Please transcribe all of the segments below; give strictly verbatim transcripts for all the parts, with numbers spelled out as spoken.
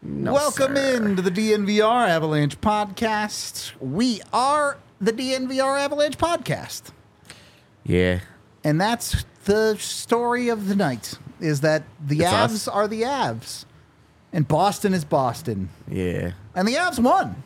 No, Welcome sir. in to the D N V R Avalanche podcast. We are the D N V R Avalanche podcast. Yeah. And that's the story of the night, is that the It's Avs us. are the Avs. And Boston is Boston. Yeah. And the Avs won.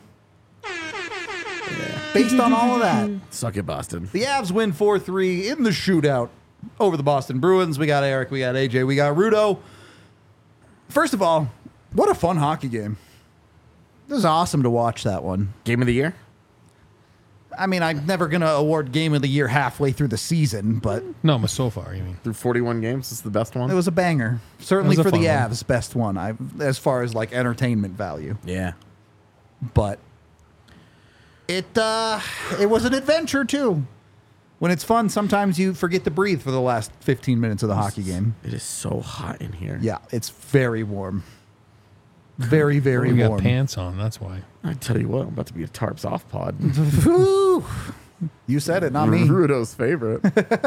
Based on all of that, Suck it, Boston. the Avs win four three in the shootout over the Boston Bruins. We got Eric, we got A J, we got Rudo. First of all, what a fun hockey game. It was awesome to watch that one. Game of the year? I mean, I'm never going to award Game of the Year halfway through the season, but No, but so far, you mean? Through forty-one games, this is the best one? it was a banger. Certainly It was for a the fun one. Avs, best one I, as far as like entertainment value. Yeah. But it uh, it was an adventure too. When it's fun, sometimes you forget to breathe for the last fifteen minutes of the hockey game. It is so hot in here. Yeah, it's very warm. Very, very We got warm. pants on, that's why. I tell you what, I'm about to be a tarps off pod. Whew. You said it, not me. Rudo's favorite.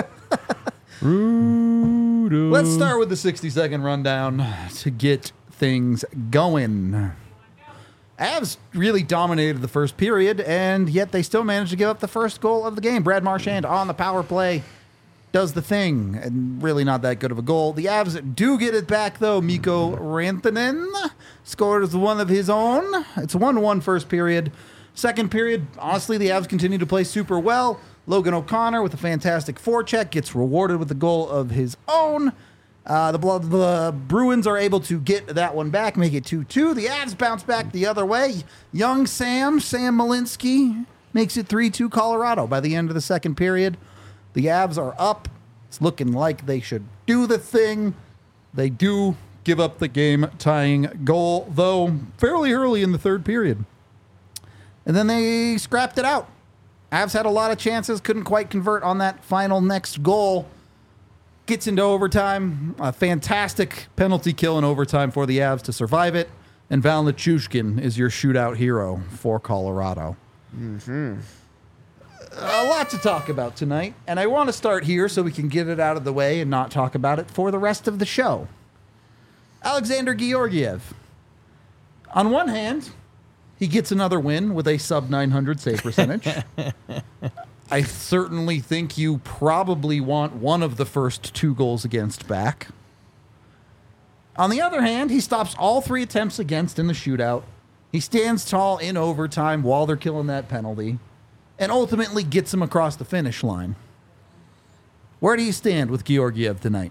Rudo. Let's start with the sixty second rundown to get things going. Avs really dominated the first period, and yet they still managed to give up the first goal of the game. Brad Marchand on the power play does the thing, and really not that good of a goal. The Avs do get it back, though. Mikko Rantanen scores one of his own. It's a one one first period. Second period, honestly, the Avs continue to play super well. Logan O'Connor with a fantastic forecheck gets rewarded with a goal of his own. Uh, the, Bl- the Bruins are able to get that one back, make it two two. The Avs bounce back the other way. Young Sam, Sam Malinsky, makes it three two Colorado by the end of the second period. The Avs are up. It's looking like they should do the thing. They do give up the game-tying goal, though, fairly early in the third period. And then they scrapped it out. Avs had a lot of chances, couldn't quite convert on that final next goal. Gets into overtime. A fantastic penalty kill in overtime for the Avs to survive it. And Val Nichushkin is your shootout hero for Colorado. Mm-hmm. A lot to talk about tonight. And I want to start here so we can get it out of the way and not talk about it for the rest of the show. Alexander Georgiev. On one hand, he gets another win with a sub nine hundred save percentage. I certainly think you probably want one of the first two goals against back. On the other hand, he stops all three attempts against in the shootout. He stands tall in overtime while they're killing that penalty, and ultimately gets him across the finish line. Where do you stand with Georgiev tonight?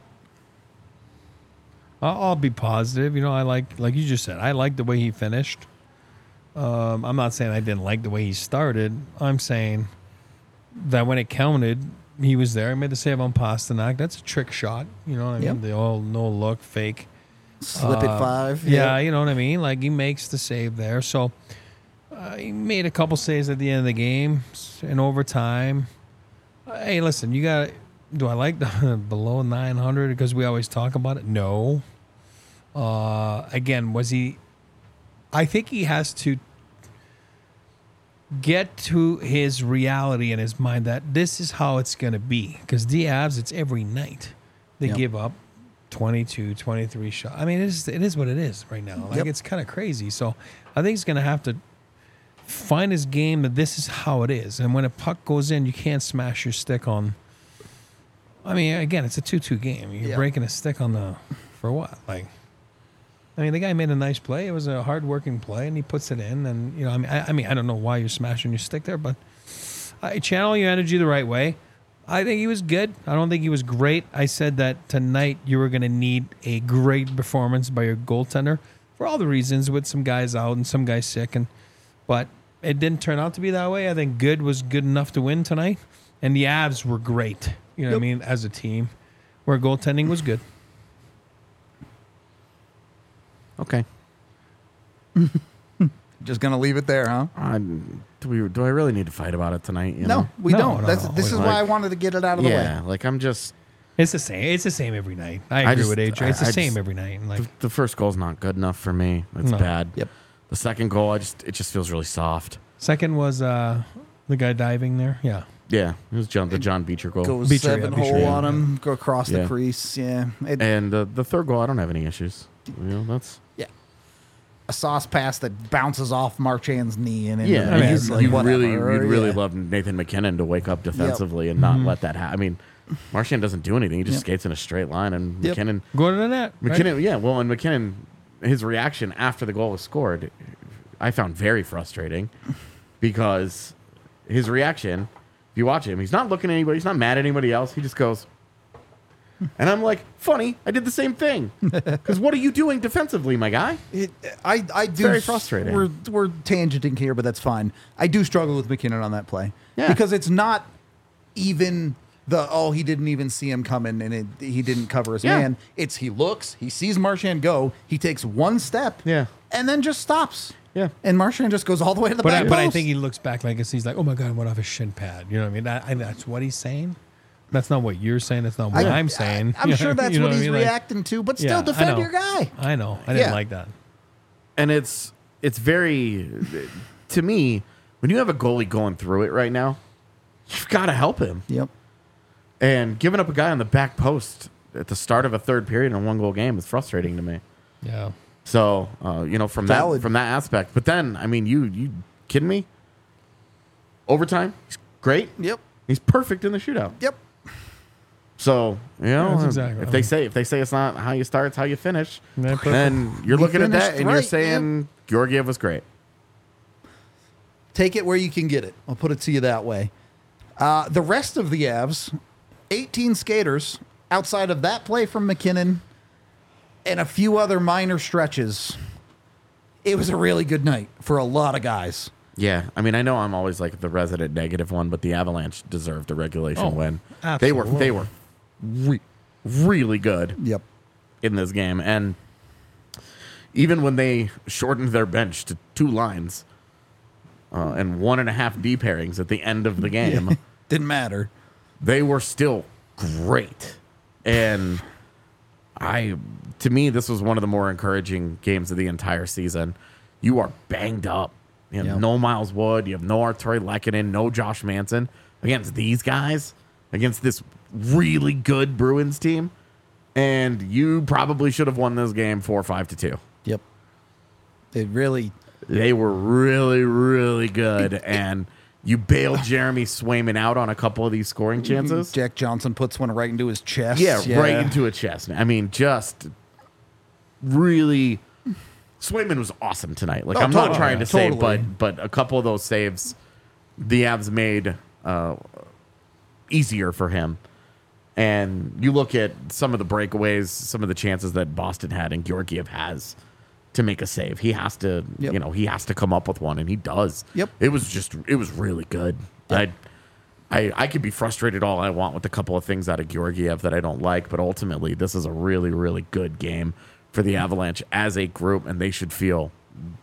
I'll, I'll be positive. You know, I like, like you just said, I like the way he finished. Um, I'm not saying I didn't like the way he started. I'm saying that when it counted, he was there. He made the save on Pasternak. That's a trick shot. You know what I mean? Yep. The all no look fake. Slip it Uh, five. Yeah, you know what I mean? Like, he makes the save there. So, uh, he made a couple saves at the end of the game in overtime. Uh, hey, listen, you got do I like the below nine hundred because we always talk about it? No. Uh, again, was he... I think he has to get to his reality in his mind that this is how it's going to be. Because the Avs, it's every night. They Yep. give up twenty-two, twenty-three shots. I mean, it is, it is what it is right now. Like, Yep. it's kind of crazy. So I think he's going to have to find his game that this is how it is. And when a puck goes in, you can't smash your stick on. I mean, again, it's a two two game. You're Yeah. breaking a stick on the, for what? Like, I mean, the guy made a nice play. It was a hard-working play, and he puts it in. And, you know, I mean, I, I mean, I don't know why you're smashing your stick there, but I channel your energy the right way. I think he was good. I don't think he was great. I said that tonight you were going to need a great performance by your goaltender for all the reasons, with some guys out and some guys sick. And but it didn't turn out to be that way. I think good was good enough to win tonight, and the Avs were great. You know what I mean? As a team, where goaltending was good. Okay. Just going to leave it there, huh? I'm, do, we, do I really need to fight about it tonight? You No, know? we No, don't. no, That's, no. this is Like- why I wanted to get it out of the Yeah, way. like I'm just... It's the same. It's the same every night. I I agree just- with A J. It's the I- I same just- every night. And like, The, the first goal's not good enough for me. It's No. bad. Yep. The second goal, I just it just feels really soft. second was uh, the guy diving there. Yeah. Yeah, it was John, the John Beecher goal. Goes Beecher, yeah, seven Beecher, hole yeah. on him, go across the Yeah. crease. Yeah. It, And the the third goal, I don't have any issues. You know, that's a sauce pass that bounces off Marchand's knee and into Yeah, the I mean, net, you, like, you whatever, really, you'd really yeah. love Nathan McKinnon to wake up defensively and not let that happen. I mean, Marchand doesn't do anything; he just Yep. skates in a straight line, and Yep. McKinnon, Go to the net. right? McKinnon, yeah. Well, and McKinnon, his reaction after the goal was scored, I found very frustrating because his reaction. If you watch him, he's not looking at anybody. He's not mad at anybody else. He just goes. And I'm like, funny, I did the same thing. Because what are you doing defensively, my guy? It, I, I do. very frustrating. We're, we're tangenting here, but that's fine. I do struggle with McKinnon on that play. Yeah. Because it's not even the, oh, he didn't even see him coming and it, he didn't cover his Yeah. man. It's he looks, he sees Marchand go, he takes one step, Yeah. and then just stops. Yeah. And Marchand just goes all the way to the But I, back but I post. think he looks back like this. He's like, oh my God, I went off his shin pad. You know what I mean? That, I, that's what he's saying. That's not what you're saying. That's not what I, am saying. I, am sure that's You know what I he's mean? Like, reacting to, but yeah, still I defend know. your guy. I know. I didn't Yeah. like that. And it's it's very to me when you have a goalie going through it right now, you've got to help him. Yep. And giving up a guy on the back post at the start of a third period in a one goal game is frustrating to me. Yeah. So uh, you know from Valid. that from that aspect. But then I mean, you you kidding me? Overtime, he's great. Yep. He's perfect in the shootout. Yep. So you know, that's exactly if right. they say if they say it's not how you start, it's how you finish, Yeah, perfect. then you're He looking at that finished and you're right, saying Georgiev was great. Take it where you can get it. I'll put it to you that way. Uh, the rest of the Avs, eighteen skaters outside of that play from McKinnon and a few other minor stretches. It was a really good night for a lot of guys. Yeah, I mean, I know I'm always like the resident negative one, but the Avalanche deserved a regulation Oh, win. They were they were re- really good Yep. in this game, and even when they shortened their bench to two lines uh, and one and a half D pairings at the end of the game, Didn't matter. they were still great. And I, to me, this was one of the more encouraging games of the entire season. You are banged up. You have Yep. no Miles Wood. You have no Arturi Lehkonen, no Josh Manson. Against these guys, against this really good Bruins team, and you probably should have won this game four five to two. Yep. It really. They were really, really good, and you bailed Jeremy Swayman out on a couple of these scoring chances. Jack Johnson puts one right into his chest. Yeah, right into a chest. I mean, just really. Swayman was awesome tonight. Like Oh, I'm not totally. trying to say, Totally. but but a couple of those saves, the Avs made uh, easier for him. And you look at some of the breakaways, some of the chances that Boston had, and Georgiev has to make a save. He has to, Yep. you know, he has to come up with one, and he does. Yep. It was just, it was really good. I, I, I could be frustrated all I want with a couple of things out of Georgiev that I don't like, but ultimately, this is a really, really good game for the Avalanche as a group, and they should feel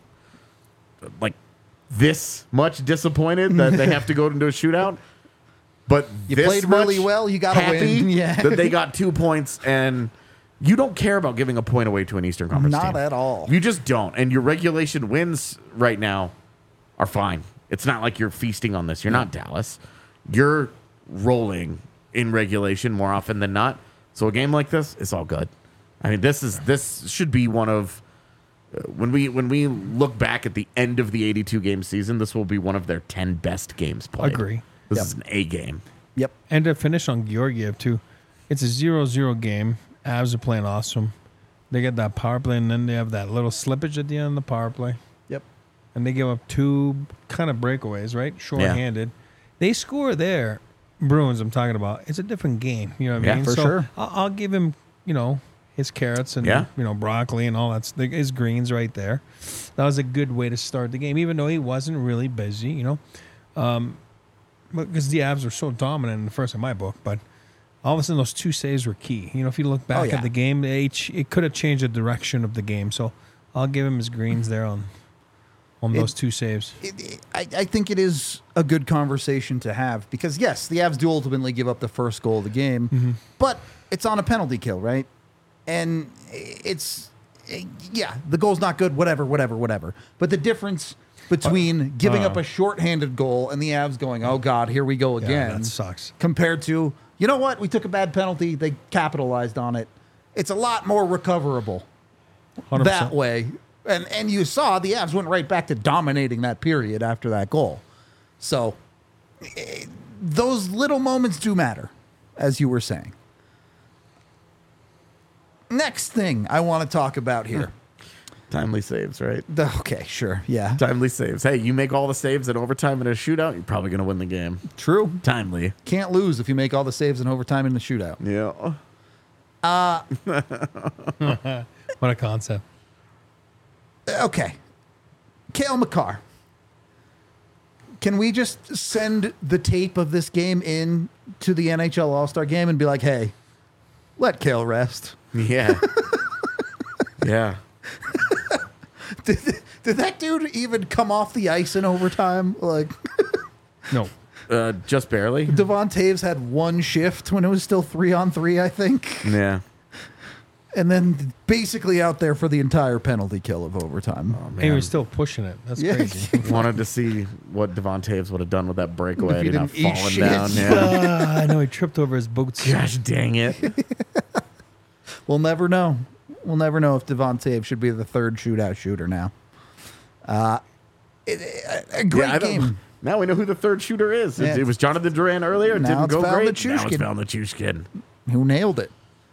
like this much disappointed that they have to go into a shootout. But You this played really much well, you gotta happy win. Yeah. that they got two points, and you don't care about giving a point away to an Eastern Conference Not team. at all. You just don't. And your regulation wins right now are fine. It's not like you're feasting on this. You're not Dallas. You're rolling in regulation more often than not. So a game like this is all good. I mean, this is this should be one of uh, when we when we look back at the end of the eighty-two game season, this will be one of their ten best games played. Agree. This Yep. is an A game. Yep. And to finish on Georgiev, too, it's a zero zero game. Avs are playing awesome. They get that power play, and then they have that little slippage at the end of the power play. Yep. And they give up two kind of breakaways, right? Short-handed. They score there. Bruins, I'm talking about. It's a different game. You know what I Yeah, mean? for so sure. I'll, I'll give him, you know, his carrots and, Yeah. you know, broccoli and all that. s- His greens right there. That was a good way to start the game, even though he wasn't really busy, you know. Um, because the Avs were so dominant in the first in my book, but all of a sudden those two saves were key. You know, if you look back Oh, yeah. at the game, they each, it could have changed the direction of the game. So I'll give him his greens there on on It- those two saves. It, it, I, I think it is a good conversation to have because, yes, the Avs do ultimately give up the first goal of the game, Mm-hmm. but it's on a penalty kill, right? And it's, yeah, the goal's not good, whatever, whatever, whatever. But the difference between giving uh, up a shorthanded goal and the Avs going, oh, God, here we go Yeah, again, that sucks. compared to, you know what, we took a bad penalty, they capitalized on it. It's a lot more recoverable one hundred percent. that way And and you saw the Avs went right back to dominating that period after that goal. So eh, those little moments do matter, as you were saying. Next thing I want to talk about here. Timely saves, right? The- okay, sure. Yeah. Timely saves. Hey, you make all the saves in overtime in a shootout, you're probably going to win the game. True. Timely. Can't lose if you make all the saves in overtime in the shootout. Yeah. What a concept. Okay. Cale Makar. Can we just send the tape of this game in to the N H L All-Star game and be like, hey, let Cale rest? Yeah. yeah. Did, did that dude even come off the ice in overtime? Like, No. Uh, just barely. Devon Taves had one shift when it was still three on three, I think. Yeah. And then basically out there for the entire penalty kill of overtime. Oh, And he was still pushing it. That's Yeah. crazy. Wanted to see what Devon Taves would have done with that breakaway. If he Had he not didn't eat fallen shit. down. Yeah. Ah, I know he tripped over his boots. Gosh dang it. We'll never know. We'll never know if Devon Taves should be the third shootout shooter now. Uh, it, a, a great Yeah, I don't- game. Now we know who the third shooter is. It, Yeah. it was Jonathan Duran earlier. It Now didn't it's go Val great. Now it's Nichushkin. Val Nichushkin. Who nailed it.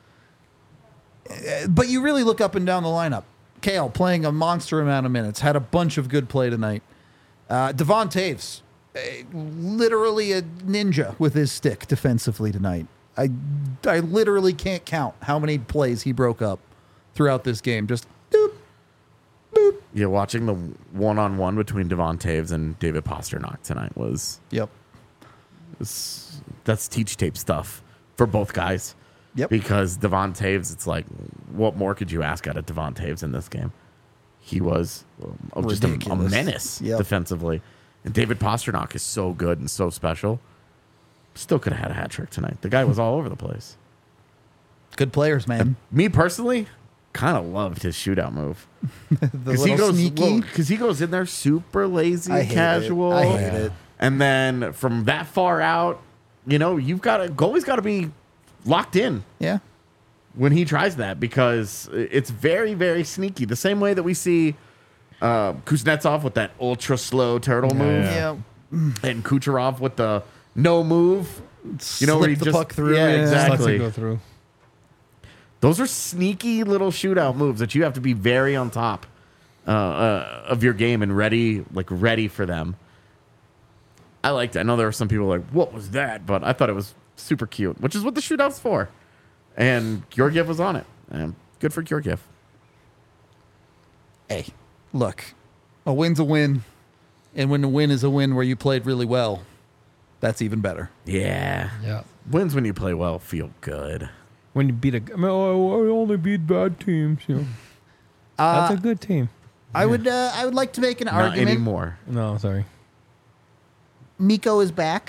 Uh, But you really look up and down the lineup. Cale playing a monster amount of minutes, had a bunch of good play tonight. Uh, Devon Taves, uh, literally a ninja with his stick defensively tonight. I, I literally can't count how many plays he broke up throughout this game. Just doop, boop. Yeah, watching the one-on-one between Devon Taves and David Pasternak tonight was, Yep. was that's teach tape stuff for both guys. Yep. Because Devon Taves, it's like, what more could you ask out of Devon Taves in this game? He was um, just a, a Ridiculous. menace Yep. defensively. And David Pasternak is so good and so special. Still could have had a hat trick tonight. The guy was all over the place. Good players, man. Me personally, kind of loved his shootout move. The Because he little goes, sneaky. because he goes in there super lazy, I hate it. casual. I hate it. And then from that far out, you know, you've got to goalie's got to be locked in Yeah. when he tries that because it's very, very sneaky. The same way that we see uh, Kuznetsov with that ultra slow turtle move, Yeah. and Kucherov with the no move. You know, where Slip he the just puck through. Yeah, Yeah. Just lets it exactly. go through. Those are sneaky little shootout moves that you have to be very on top uh, uh, of your game and ready, like ready for them. I liked it. I know there were some people like, "What was that?" But I thought it was super cute, which is what the shootout's for. And Georgiev was on it. And good for Georgiev. Hey, look, a win's a win. And when the win is a win where you played really well, that's even better. Yeah. Yeah. Wins when you play well feel good. When you beat a, I mean, oh, I only beat bad teams. You know. Uh, That's a good team. I would uh, I would like to make an Not argument. anymore. No, sorry. Miko is back.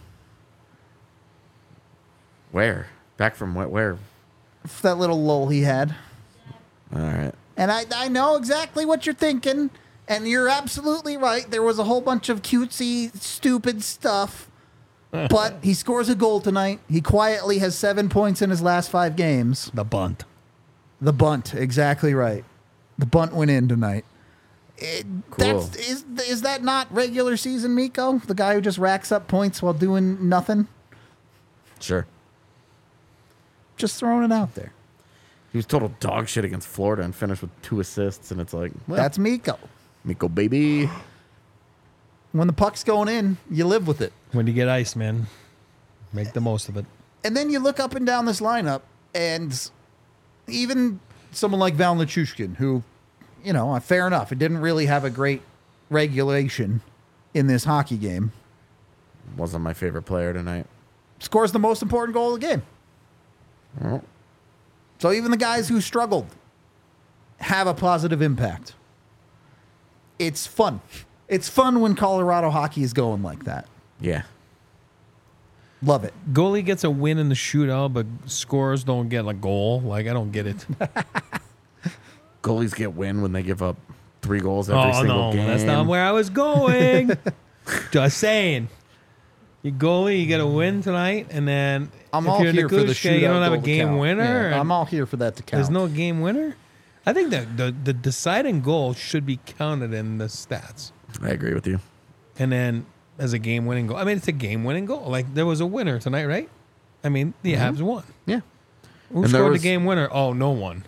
Where? Back from where? where? For that little lull he had. All right. And I, I know exactly what you're thinking. And you're absolutely right. There was a whole bunch of cutesy, stupid stuff. But he scores a goal tonight. He quietly has seven points in his last five games. The bunt. The bunt, exactly right. The bunt went in tonight. It, Cool. that's, is, is that not regular season Miko? The guy who just racks up points while doing nothing? Sure. Just throwing it out there. He was total dog shit against Florida and finished with two assists. And it's like, well, That's Miko. Miko, baby. When the puck's going in, you live with it. When you get ice, man, make the most of it. And then you look up and down this lineup, and even someone like Val Nichushkin, who, you know, fair enough, it didn't really have a great regulation in this hockey game, Wasn't my favorite player tonight. scores the most important goal of the game. Well, So even the guys who struggled have a positive impact. It's fun. It's fun when Colorado hockey is going like that. yeah. Love it. Goalie gets a win in the shootout, but scores don't get a goal. Like, I don't get it. Goalies get win when they give up three goals every Oh, single no. game. That's not where I was going. Just saying. You goalie, you get a win tonight, and then I'm if all you're here for the Nikushka, shootout you don't have a goal to game count. winner. Yeah, and I'm all here for that to count. There's no game winner. I think that the, the deciding goal should be counted in the stats. I agree with you. And then as a game-winning goal. I mean, it's a game-winning goal. Like, there was a winner tonight, right? I mean, the Mm-hmm. Avs won. Yeah. Who And there scored was- the game winner? Oh, no one.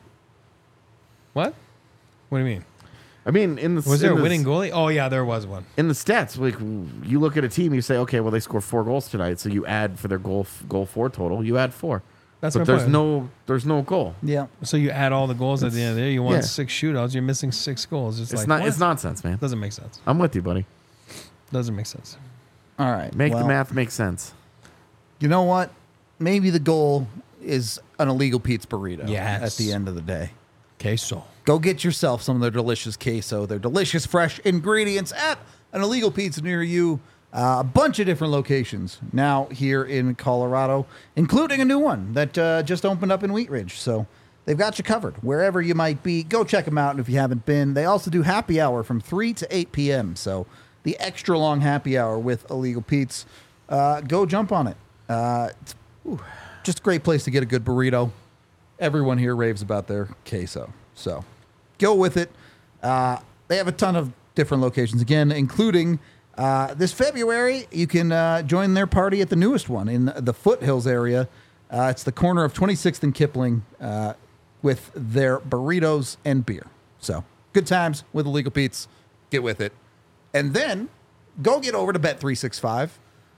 What? What do you mean? I mean, in the Was there in a the- winning goalie? Oh, yeah, there was one. in the stats? Like, you look at a team, you say, okay, well, they scored four goals tonight, so you add for their goal goal four total, you add four. That's but my there's point. no there's no goal. Yeah. So you add all the goals at the end of the day. You won yeah. six shootouts. You're missing six goals. It's, It's like, not. what? It's nonsense, man. Doesn't make sense. I'm with you, buddy. Doesn't make sense. All right. Make well, the math make sense. You know what? Maybe the goal is an illegal Pete's burrito. Yes. At the end of the day. Okay, so. Go get yourself some of their delicious queso, their delicious fresh ingredients at an illegal pizza near you. Uh, a bunch of different locations now here in Colorado, including a new one that uh, just opened up in Wheat Ridge. So they've got you covered wherever you might be. Go check them out. And if you haven't been, they also do happy hour from three to eight p.m. So the extra long happy hour with Illegal Pete's. Uh, go jump on it. Uh, it's ooh, just a great place to get a good burrito. Everyone here raves about their queso. So go with it. Uh, they have a ton of different locations, again, including uh, this February. You can uh, join their party at the newest one in the Foothills area. Uh, it's the corner of twenty-sixth and Kipling uh, with their burritos and beer. So good times with Illegal Pete's. Get with it. And then go get over to Bet three sixty-five.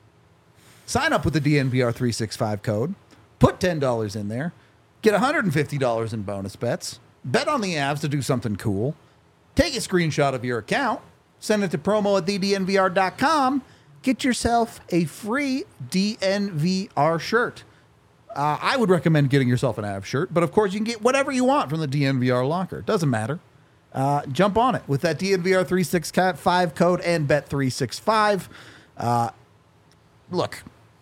Sign up with the D N V R three sixty-five code. Put ten dollars in there. Get one hundred fifty dollars in bonus bets. Bet on the Avs to do something cool. Take a screenshot of your account. Send it to promo at the d n v r dot com. Get yourself a free D N V R shirt. Uh, I would recommend getting yourself an Avs shirt, but of course you can get whatever you want from the D N V R locker. Doesn't matter. Uh, jump on it with that D N V R three sixty-five code and Bet three sixty-five. Uh, look,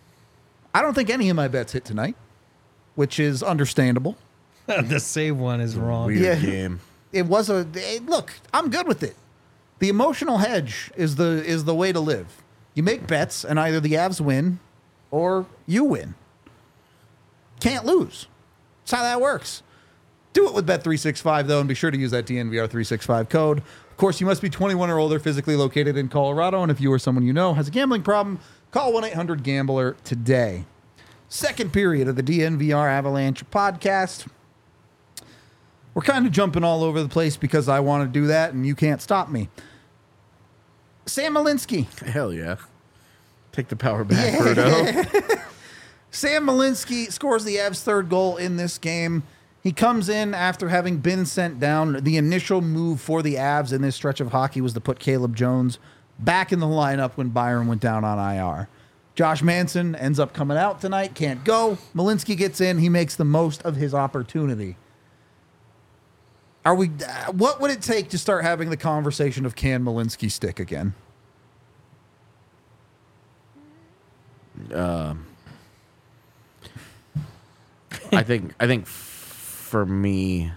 I don't think any of my bets hit tonight, which is understandable. The save one is wrong. Weird Yeah. game. It was a eh, look. I'm good with it. The emotional hedge is the is the way to live. You make bets, and either the Avs win or you win. Can't lose. That's how that works. Do it with Bet three sixty-five, though, and be sure to use that D N V R three sixty-five code. Of course, you must be twenty-one or older, physically located in Colorado, and if you or someone you know has a gambling problem, call one eight hundred gambler today. Second period of the D N V R Avalanche podcast. We're kind of jumping all over the place because I want to do that, and you can't stop me. Sam Malinsky. Hell yeah. Take the power back, Birdo. Sam Malinsky scores the Avs' third goal in this game. He comes in after having been sent down. The initial move for the Avs in this stretch of hockey was to put Caleb Jones back in the lineup when Byron went down on I R. Josh Manson ends up coming out tonight, can't go. Malinsky gets in. He makes the most of his opportunity. Are we? Uh, what would it take to start having the conversation of can Malinsky stick again? Um, I think. I think f- for me,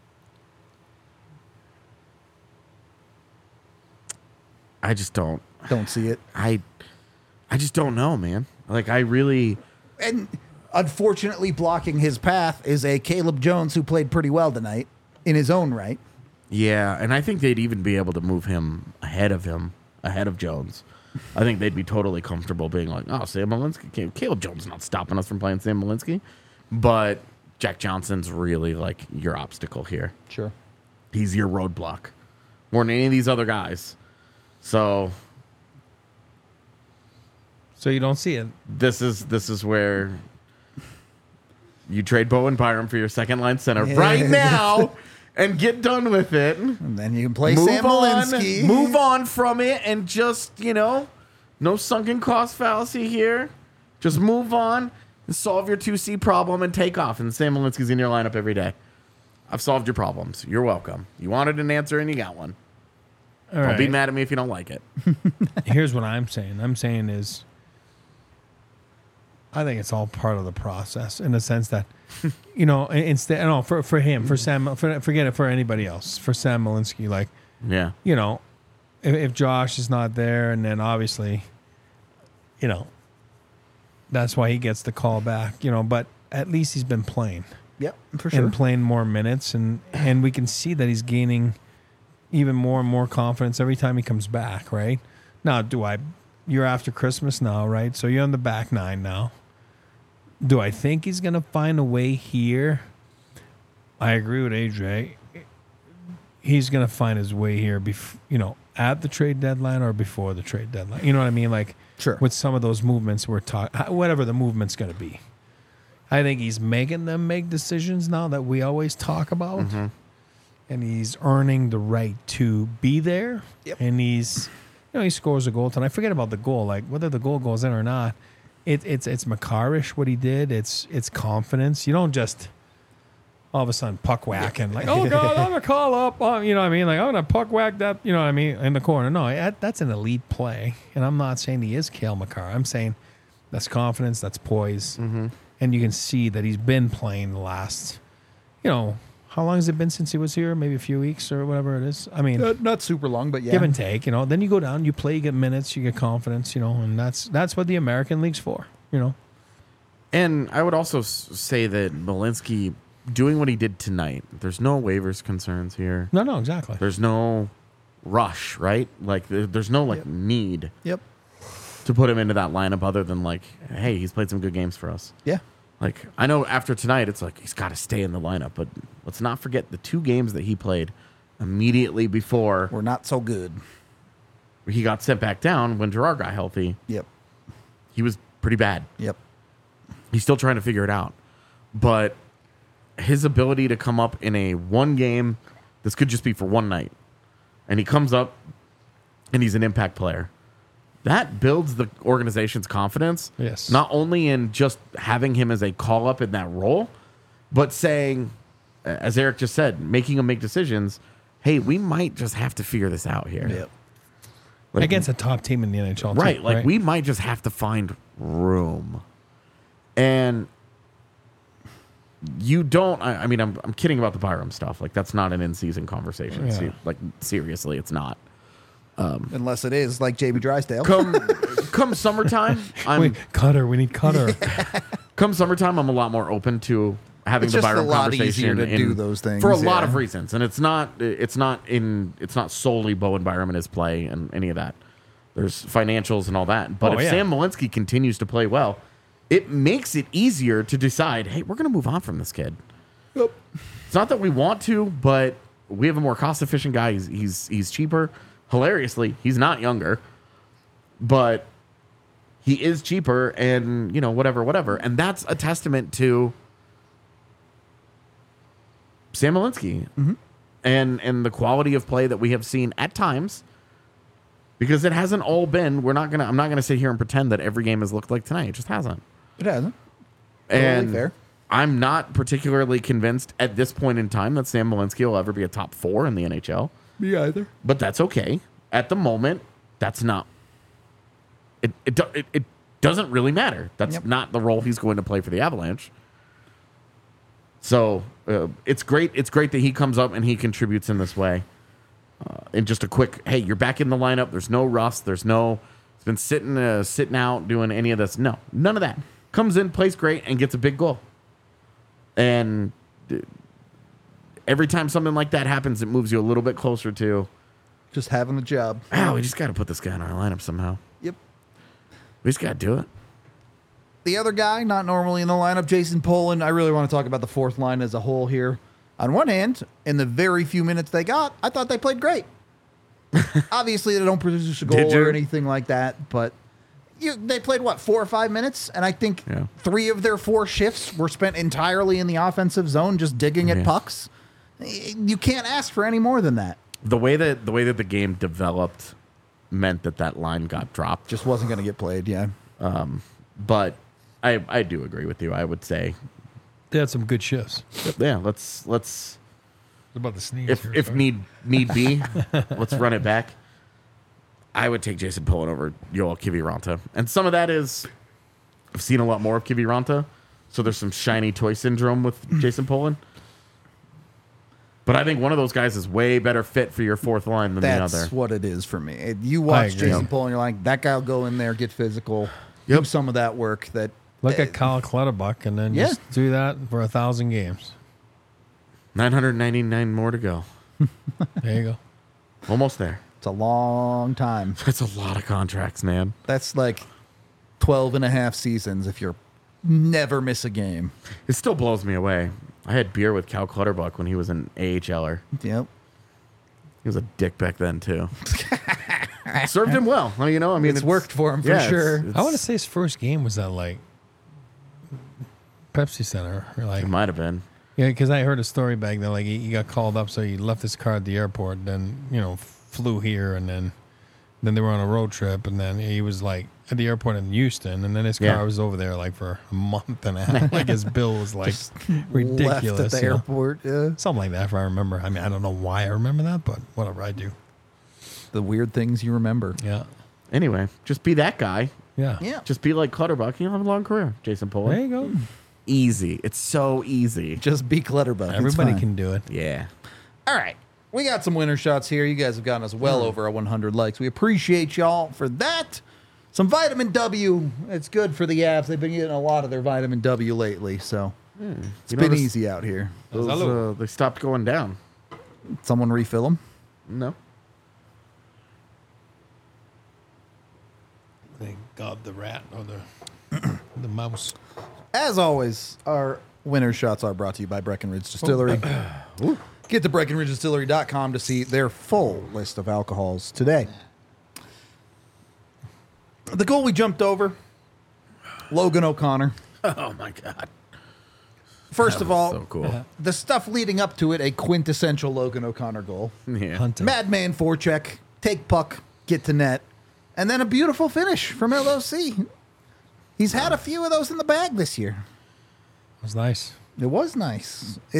I just don't. Don't see it. I. I just don't know, man. Like I really. And unfortunately, blocking his path is a Caleb Jones who played pretty well tonight in his own right. Yeah, and I think they'd even be able to move him ahead of him, ahead of Jones. I think they'd be totally comfortable being like, oh, Sam Malinsky. Caleb Jones is not stopping us from playing Sam Malinsky. But Jack Johnson's really like your obstacle here. Sure. He's your roadblock more than any of these other guys. So So you don't see it. this is this is where you trade Bowen Byram for your second line center Yeah. right now and get done with it. And then you can play Move Sam on, Malinsky. move on from it, and just you know, no sunken cost fallacy here. Just move on and solve your two C problem and take off. And Sam Malinsky's in your lineup every day. I've solved your problems. You're welcome. You wanted an answer and you got one. All Don't be right. mad at me if you don't like it. Here's what I'm saying. I'm saying is, I think it's all part of the process in the sense that, you know, instead, no, for for him, for Sam, for, forget it for anybody else, for Sam Malinsky, like, Yeah. you know, if, if Josh is not there, and then obviously, you know, that's why he gets the call back, you know, but at least he's been playing. Yep, for sure. and playing more minutes, and and we can see that he's gaining even more and more confidence every time he comes back. Right now, do I? You're after Christmas now, right? So you're on the back nine now. Do I think he's gonna find a way here? I agree with A J. He's gonna find his way here, bef- you know, at the trade deadline or before the trade deadline. You know what I mean? Like, Sure. with some of those movements we're talking, whatever the movement's gonna be. I think he's making them make decisions now that we always talk about, Mm-hmm. and he's earning the right to be there. Yep. And he's, you know, he scores a goal tonight. Forget about the goal, like whether the goal goes in or not. It, it's it's Makarish what he did. It's it's confidence. You don't just all of a sudden puck whack and like, oh God, I'm gonna call up. Oh, you know what I mean? Like, I'm gonna puck whack that. You know what I mean? In the corner. No, that, that's an elite play. And I'm not saying he is Cale Makar. I'm saying that's confidence. That's poise. Mm-hmm. And you can see that he's been playing the last, you know, how long has it been since he was here? Maybe a few weeks or whatever it is. I mean, Uh, not super long, but yeah. give and take, you know. Then you go down, you play, you get minutes, you get confidence, you know, and that's that's what the American League's for, you know. And I would also s- say that Malinsky doing what he did tonight, there's no waivers concerns here. No, no, exactly. There's no rush, right? Like there- there's no like Yep. need Yep. to put him into that lineup other than like, hey, he's played some good games for us. Yeah. Like I know after tonight, it's like he's got to stay in the lineup, but let's not forget the two games that he played immediately before We're not so good. he got sent back down when Gerard got healthy. Yep. He was pretty bad. Yep. He's still trying to figure it out. But his ability to come up in a one game, this could just be for one night, and he comes up and he's an impact player. That builds the organization's confidence. Yes. Not only in just having him as a call up in that role, but saying, as Eric just said, making him make decisions. Hey, we might just have to figure this out here. Yep. Like, Against a top team in the N H L, too, right. Like we might just have to find room. And you don't, I, I mean, I'm, I'm kidding about the Byram stuff. Like that's not an in-season conversation. Yeah. Se- like seriously, it's not. Unless it is like J B Drysdale. Come, come summertime, I'm Wait, Cutter, we need Cutter. come summertime. I'm a lot more open to having It's the just a Byram lot conversation easier to in- do those things, for a lot yeah. of reasons. And it's not, it's not in, it's not solely Bowen Byram and his play and any of that. There's financials and all that. But Oh, if yeah. Sam Malinsky continues to play well, it makes it easier to decide, hey, we're going to move on from this kid. Yep. It's not that we want to, but we have a more cost-efficient guy. He's he's he's cheaper. Hilariously, he's not younger, but he is cheaper, and you know whatever, whatever. And that's a testament to Sam Malinsky and and the quality of play that we have seen at times. Because it hasn't all been. We're not gonna. I'm not gonna sit here and pretend that every game has looked like tonight. It just hasn't. It hasn't. Totally And fair. I'm not particularly convinced at this point in time that Sam Malinsky will ever be a top four in the N H L. Me either. But that's okay. At the moment, that's not. It it do- it, it doesn't really matter. That's Yep. not the role he's going to play for the Avalanche. So uh, it's great. It's great that he comes up and he contributes in this way. Uh, and just a quick, hey, you're back in the lineup. There's no rust. There's no. It's been sitting uh, sitting out doing any of this. No, none of that. Comes in, plays great, and gets a big goal. And uh, every time something like that happens, it moves you a little bit closer to, Just having the job. oh, we just got to put this guy in our lineup somehow. Yep. We just got to do it. The other guy, not normally in the lineup, Jason Poland. I really want to talk about the fourth line as a whole here. On one hand, in the very few minutes they got, I thought they played great. Obviously, they don't produce a goal Did you? or anything like that, but you, they played, what, four or five minutes? And I think Yeah. three of their four shifts were spent entirely in the offensive zone, just digging at Yeah. pucks. You can't ask for any more than that. The way that the way that the game developed meant that that line got dropped. Just wasn't going to get played, yeah. But I I do agree with you. I would say, They had some good shifts. yeah, let's let's About the sneeze. if here, if sorry. need need be, let's run it back. I would take Jason Pullen over Yoel Kiviranta. And some of that is I've seen a lot more of Kiviranta, so there's some shiny toy syndrome with Jason Pullen. But I think one of those guys is way better fit for your fourth line than That's the other. what it is for me. It- You watch agree. Jason Poland, you're like, that guy will go in there, get physical, do Yep. some of that work that Look at Kyle Clutterbuck and then Yeah. just do that for a thousand games. nine hundred ninety-nine more to go. There you go. Almost there. It's a long time. That's a lot of contracts, man. That's like twelve and a half seasons if you're never miss a game. It still blows me away. I had beer with Cal Clutterbuck when he was an A H L er. Yep. He was a dick back then, too. Served him well. Well, you know, I mean, It's worked for him for yeah, it's- sure. it's- I want to say his first game was at like Pepsi Center, or like It might have been. yeah, because I heard a story back then. Like he, he got called up, so he left his car at the airport, then you know flew here, and then then they were on a road trip, and then he was like at the airport in Houston, and then his car Yeah. was over there like for a month and a half. Like his bill was like ridiculous. Left at the you know? airport. Yeah. Something like that, if I remember. I mean, I don't know why I remember that, but whatever, I do. The weird things you remember. Yeah, Anyway, just be that guy. yeah, Yeah. Just be like Clutterbuck. You'll have a long career, Jason There Pollard. you go. Easy. It's so easy. Just be Clutterbuck. It's Everybody fine. can do it. Yeah. All right. We got some winner shots here. You guys have gotten us well over our one hundred likes. We appreciate y'all for that. Some vitamin W. It's good for the abs. They've been getting a lot of their vitamin W lately, so it's You been notice easy out here. Those, Salud. uh, they stopped going down. Someone refill them. No. They got the rat or the the mouse. As always, our winner shots are brought to you by Breckenridge Distillery. Get to breckenridge distillery dot com to see their full list of alcohols today. The goal we jumped over, Logan O'Connor. Oh, my God. First of all, So cool. the stuff leading up to it, a quintessential Logan O'Connor goal. Yeah. Hunting. Madman forecheck, take puck, get to net, and then a beautiful finish from L O C. He's had a few of those in the bag this year. It was nice. It was nice. It.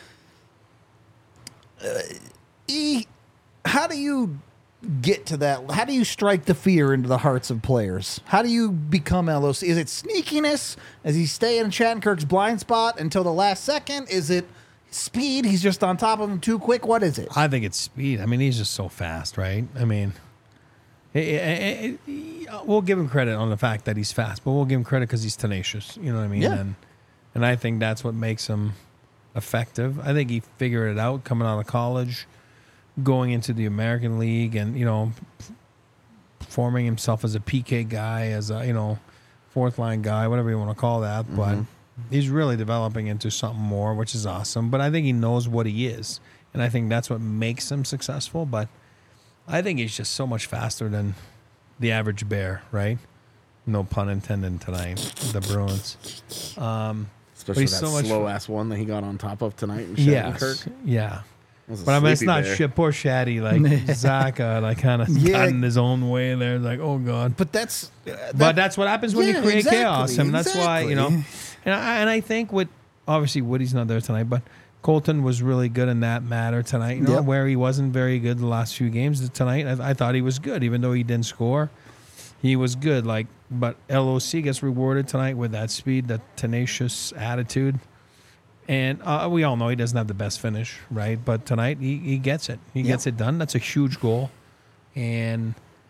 Uh, e, how do you get to that? How do you strike the fear into the hearts of players? How do you become L O C? Is it sneakiness? Does he stay in Shattenkirk's blind spot until the last second? Is it speed? He's just on top of him too quick. What is it? I think it's speed. I mean, he's just so fast, right? I mean, it, it, it, we'll give him credit on the fact that he's fast, but we'll give him credit because he's tenacious. You know what I mean? Yeah. And and I think that's what makes him effective. I think he figured it out coming out of college, going into the American League, and you know, forming himself as a P K guy, as a you know, fourth line guy, whatever you want to call that. Mm-hmm. But he's really developing into something more, which is awesome. But I think he knows what he is, and I think that's what makes him successful. But I think he's just so much faster than the average bear, right? No pun intended tonight. The Bruins. Um, Especially he's that so much- slow ass one that he got on top of tonight in yes, Shattenkirk. yeah. Was a But I mean, it's sleepy not bear. shit. Poor Shaddy, like Zaka, like kind of Yeah. got in his own way there. Like, oh god. But that's. Uh, that- But that's what happens when Yeah, you create exactly, chaos, and that's why you know. exactly. And I, and I think with obviously Woody's not there tonight, but Colton was really good in that matter tonight. You know, Yep. where he wasn't very good the last few games. Tonight, I, I thought he was good, even though he didn't score. He was good. Like, but L O C gets rewarded tonight with that speed, that tenacious attitude. And uh, we all know he doesn't have the best finish, right? But tonight he, he gets it. He Yep. gets it done. That's a huge goal. And,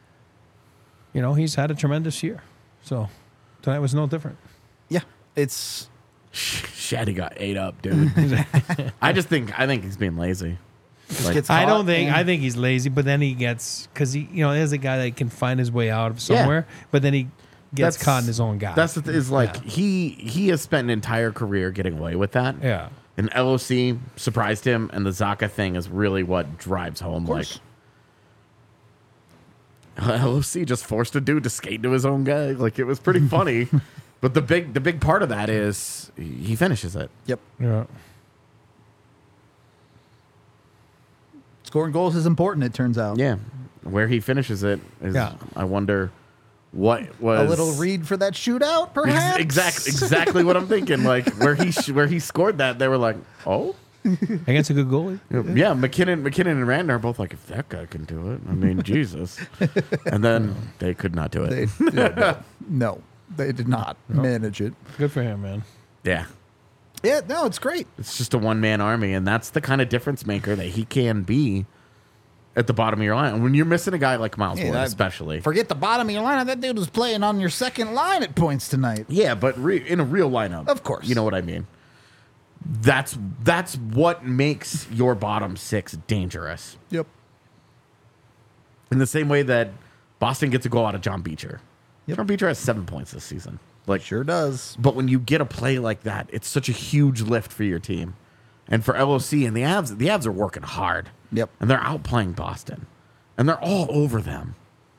you know, he's had a tremendous year. So tonight was no different. Yeah. It's. Shaddy got ate up, dude. I just think I think he's being lazy. Like, gets I caught, don't think, man. I think he's lazy, but then he gets, because he, you know, there's a guy that can find his way out of somewhere, but then he gets That's- caught in his own guy. that's the th- is like Yeah. he he has spent an entire career getting away with that. Yeah. And L O C surprised him, and the Zaka thing is really what drives home. Like course. L O C just forced a dude to skate to his own guy. Like it was pretty funny. But the big the big part of that is he finishes it. Yep. Yeah. Scoring goals is important, it turns out. Yeah, where he finishes it is. Yeah. I wonder what A was little read for that shootout, perhaps? Exactly, exactly what I'm thinking. Like where he sh- where he scored that, they were like, oh. Against a good goalie. Yeah, McKinnon, McKinnon and Rand are both like, if that guy can do it, I mean, Jesus. And then they could not do it. They, yeah, no, they did not manage it. Good for him, man. yeah, Yeah, no, it's great. it's just a one man army, and that's the kind of difference maker that he can be. at the bottom of your line. And when you're missing a guy like Miles Yeah, Wood, that- especially. Forget the bottom of your lineup. That dude was playing on your second line at points tonight. Yeah, but re- in a real lineup. Of course. You know what I mean? That's that's what makes your bottom six dangerous. Yep. In the same way that Boston gets a goal out of John Beecher. Yep. John Beecher has seven points this season. Like, Sure does. but when you get a play like that, it's such a huge lift for your team. And for L O C and the Avs, the Avs are working hard. Yep. And they're outplaying Boston. And they're all over them.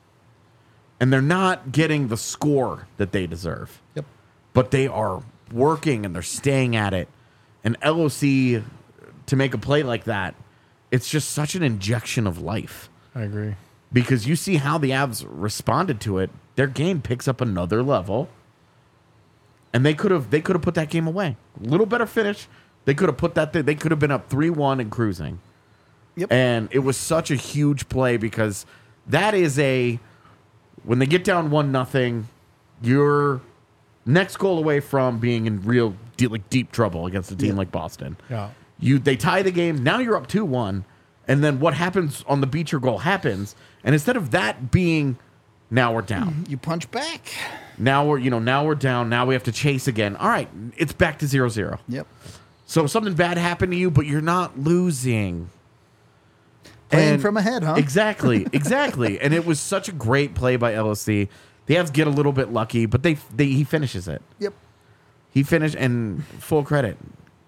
And they're not getting the score that they deserve. Yep. But they are working and they're staying at it. And L O C, to make a play like that, it's just such an injection of life. I agree. Because you see how the Avs responded to it. Their game picks up another level. And they could have they could have put that game away. A little better finish. They could have put that th- they could have been up three one and cruising. Yep. And it was such a huge play because that is a when they get down one nothing, you're next goal away from being in real deep, like deep trouble against a team Yeah. like Boston. Yeah. You they tie the game. Now you're up two one, and then what happens on the Beecher goal happens. And instead of that being now we're down. You punch back. Now we're you know now we're down. Now we have to chase again. All right, it's back to zero zero. Yep. So something bad happened to you, but you're not losing. Playing And- from ahead, huh? Exactly, exactly. And it was such a great play by L O C. The Avs get a little bit lucky, but they, they he finishes it. Yep. He finished, and full credit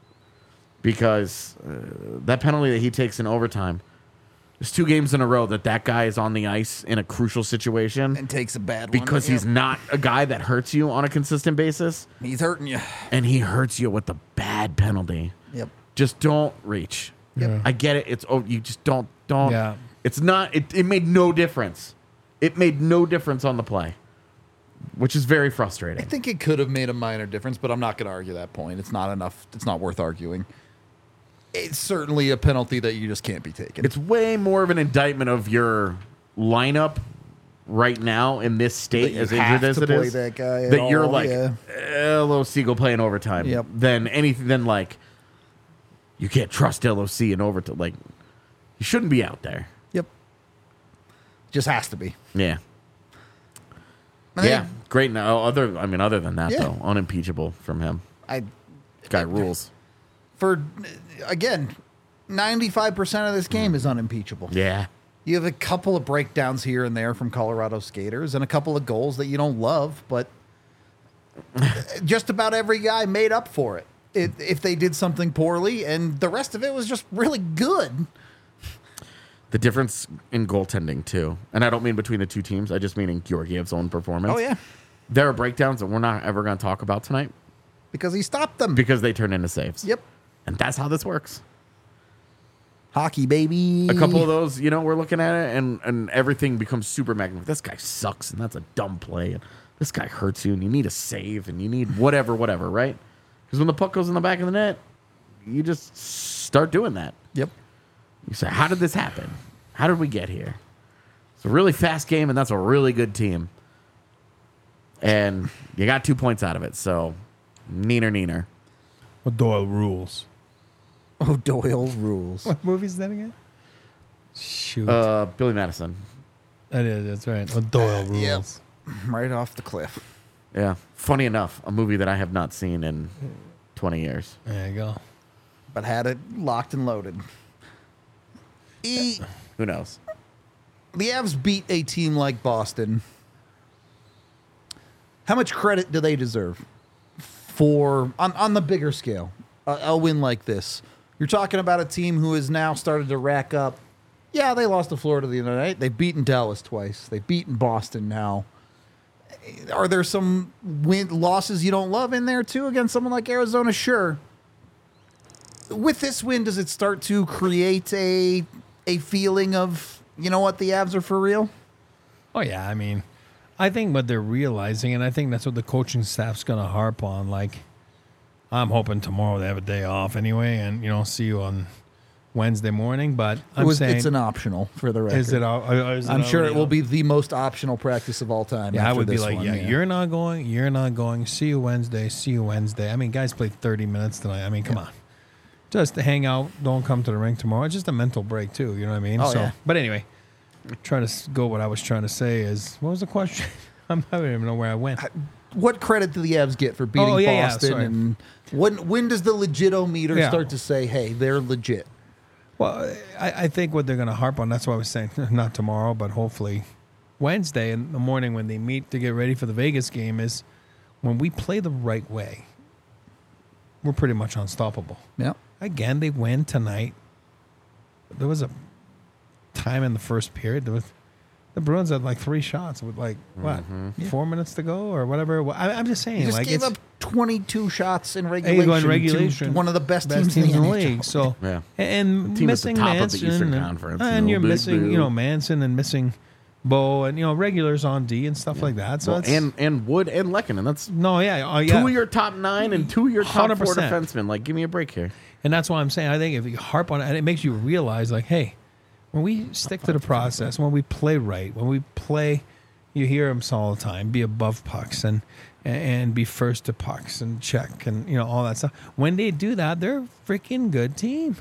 because uh, that penalty that he takes in overtime. There's two games in a row that that guy is on the ice in a crucial situation And takes a bad one. because he's Yep. not a guy that hurts you on a consistent basis, He's hurting you. and he hurts you with the bad penalty. Yep. Just don't reach. Yep. I get it. It's oh, you just don't don't. Yeah. It's not. It, it made no difference. It made no difference on the play, which is very I frustrating. think it could have made a minor difference, but I'm not going to argue that point. It's not enough. It's not worth arguing. It's certainly a penalty that you just can't be taken. It's way more of an indictment of your lineup right now in this That state, you as have injured as to it play is. that guy at that you're all, like yeah. L O C go playing overtime. Yep. Than anything. Than like you can't trust L O C in overtime. Like you shouldn't be out there. Yep. Just has to be. Yeah. I Yeah, think great. No, other I mean, other than that Yeah. though, unimpeachable from him. I Guy rules. for again, ninety-five percent of this game is unimpeachable. Yeah, You have a couple of breakdowns here and there from Colorado skaters and a couple of goals that you don't love, but just about every guy made up for it. It, if they did something poorly, and the rest of it was just really good. the difference in goaltending too, and I don't mean between the two teams. I just mean in Georgiev's own performance. Oh yeah, there are breakdowns that we're not ever going to talk about tonight because he stopped them. because they turn into saves. Yep, and that's how this works. hockey baby. A couple of those, you know, we're looking at it, and and everything becomes super magnificent. This guy sucks, and that's a dumb play. And this guy hurts you, and you need a save, and you need whatever, whatever, right? Because when the puck goes in the back of the net, you just start doing that. Yep. You say, how did this happen? How did we get here? It's a really fast game, and that's a really good team. And you got two points out of it, so neener, neener. Well, Doyle rules. Oh, Doyle rules. What movie is that again? Shoot. Uh, Billy Madison. that is, that's right. Well, Doyle rules. Yep. Right off the cliff. Yeah. Funny enough, a movie that I have not seen in twenty years. There you go. But had it locked and loaded. E- Who knows? the Avs beat a team like Boston. How much credit do they deserve for on, on the bigger scale? A, a win like this. You're talking about a team who has now started to rack up. Yeah, they lost to Florida the other night. They've beaten Dallas twice. They've beaten Boston now. Are there some win losses you don't love in there too against someone like Arizona? Sure. With this win, does it start to create a a feeling of, you know what, the Avs are for real? Oh, yeah. I mean, I think what they're realizing, and I think that's what the coaching staff's going to harp on. Like, I'm hoping tomorrow they have a day off anyway, and, you know, see you on Wednesday morning. But I'm It was- saying, it's an optional for the record. is it? al- uh, is it I'm sure it already will on? be the most optional practice of all time. Yeah, I after would be this like, one, yeah, you're not going, you're not going. See you Wednesday. See you Wednesday. I mean, guys played thirty minutes tonight. I mean, come on. just to hang out, don't come to the rink tomorrow. It's just a mental break too. You know what I mean? Oh, so, yeah. but anyway, trying to s- go. What I was trying to say is, what was the question? I'm, I don't even know where I went. What credit do the Avs get for beating Oh, yeah, yeah, Boston? sorry. And when when does the legit-o-meter Yeah. start to say, hey, they're legit? Well, I, I think what they're going to harp on. That's why I was saying not tomorrow, but hopefully Wednesday in the morning when they meet to get ready for the Vegas game is when we play the right way. We're pretty much unstoppable. Yeah. Again, they win tonight. There was a time in the first period. There was the Bruins had like three shots with like what four minutes to go or whatever. I, I'm just saying, You just like gave it's up twenty-two shots in Hey, regulation, you go in regulation. to one of the best, best teams, in the, league. N H L. So Yeah. and The team at the missing top of the Manson Eastern and, Conference. and No you're big missing deal. you know Manson and missing Bo and you know regulars on D and stuff like that. So Well, it's, and and Wood and Lekkinen. That's no, yeah, oh, yeah. two of your top nine and two of your top one hundred four percent. defensemen. Like, give me a break here. And that's why I'm saying I think if you harp on it, and it makes you realize, like, hey, when we stick to the process, when we play right, when we play, you hear them all the time, be above pucks and and be first to pucks and check and you know all that stuff. When they do that, they're a freaking good team.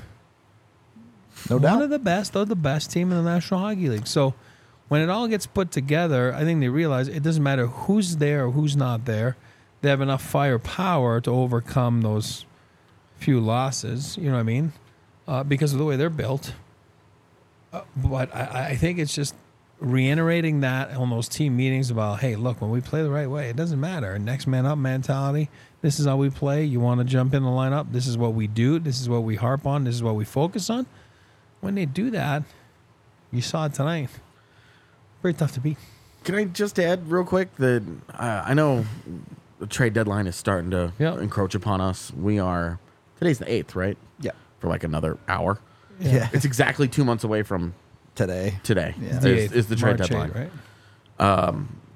No One doubt. of the best, they're the best team in the National Hockey League. So when it all gets put together, I think they realize it doesn't matter who's there or who's not there. They have enough firepower to overcome those few losses. You know what I mean? Uh, because of the way they're built. Uh, but I, I think it's just reiterating that on those team meetings about, hey, look, when we play the right way, it doesn't matter. Next man up mentality. This is how we play. You want to jump in the lineup. This is what we do. This is what we harp on. This is what we focus on. When they do that, you saw it tonight. Very tough to beat. Can I just add real quick that uh, I know the trade deadline is starting to Yeah. encroach upon us. We are today's the eighth, right? Yeah. For like another hour. Yeah. It's exactly two months away from Today. today. Yeah. Is, The eighth, is the trade March deadline? eighth, right?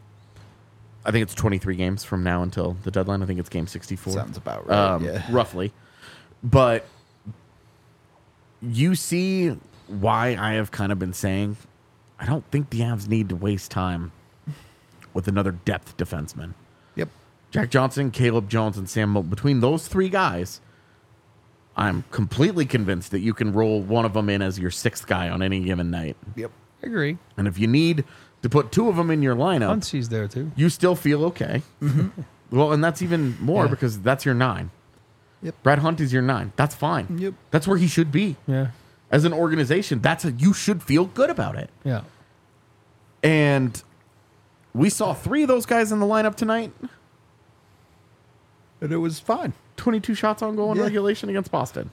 I think it's twenty-three games from now until the deadline. I think it's game sixty-four. Sounds about right. um, yeah. roughly. But you see why I have kind of been saying I don't think the Avs need to waste time with another depth defenseman. Yep. Jack Johnson, Caleb Jones, and Sam Mo- between those three guys, I'm completely convinced that you can roll one of them in as your sixth guy on any given night. Yep. I agree. And if you need to put two of them in your lineup, Muncie's there too. you still feel okay. Well, and that's even more Yeah. because that's your nine. Yep. Brad Hunt is your nine. That's fine. Yep. That's where he should be. Yeah. As an organization, that's a, you should feel good about it. Yeah. And we saw three of those guys in the lineup tonight. And it was fine. twenty-two shots on goal in Yeah. regulation against Boston.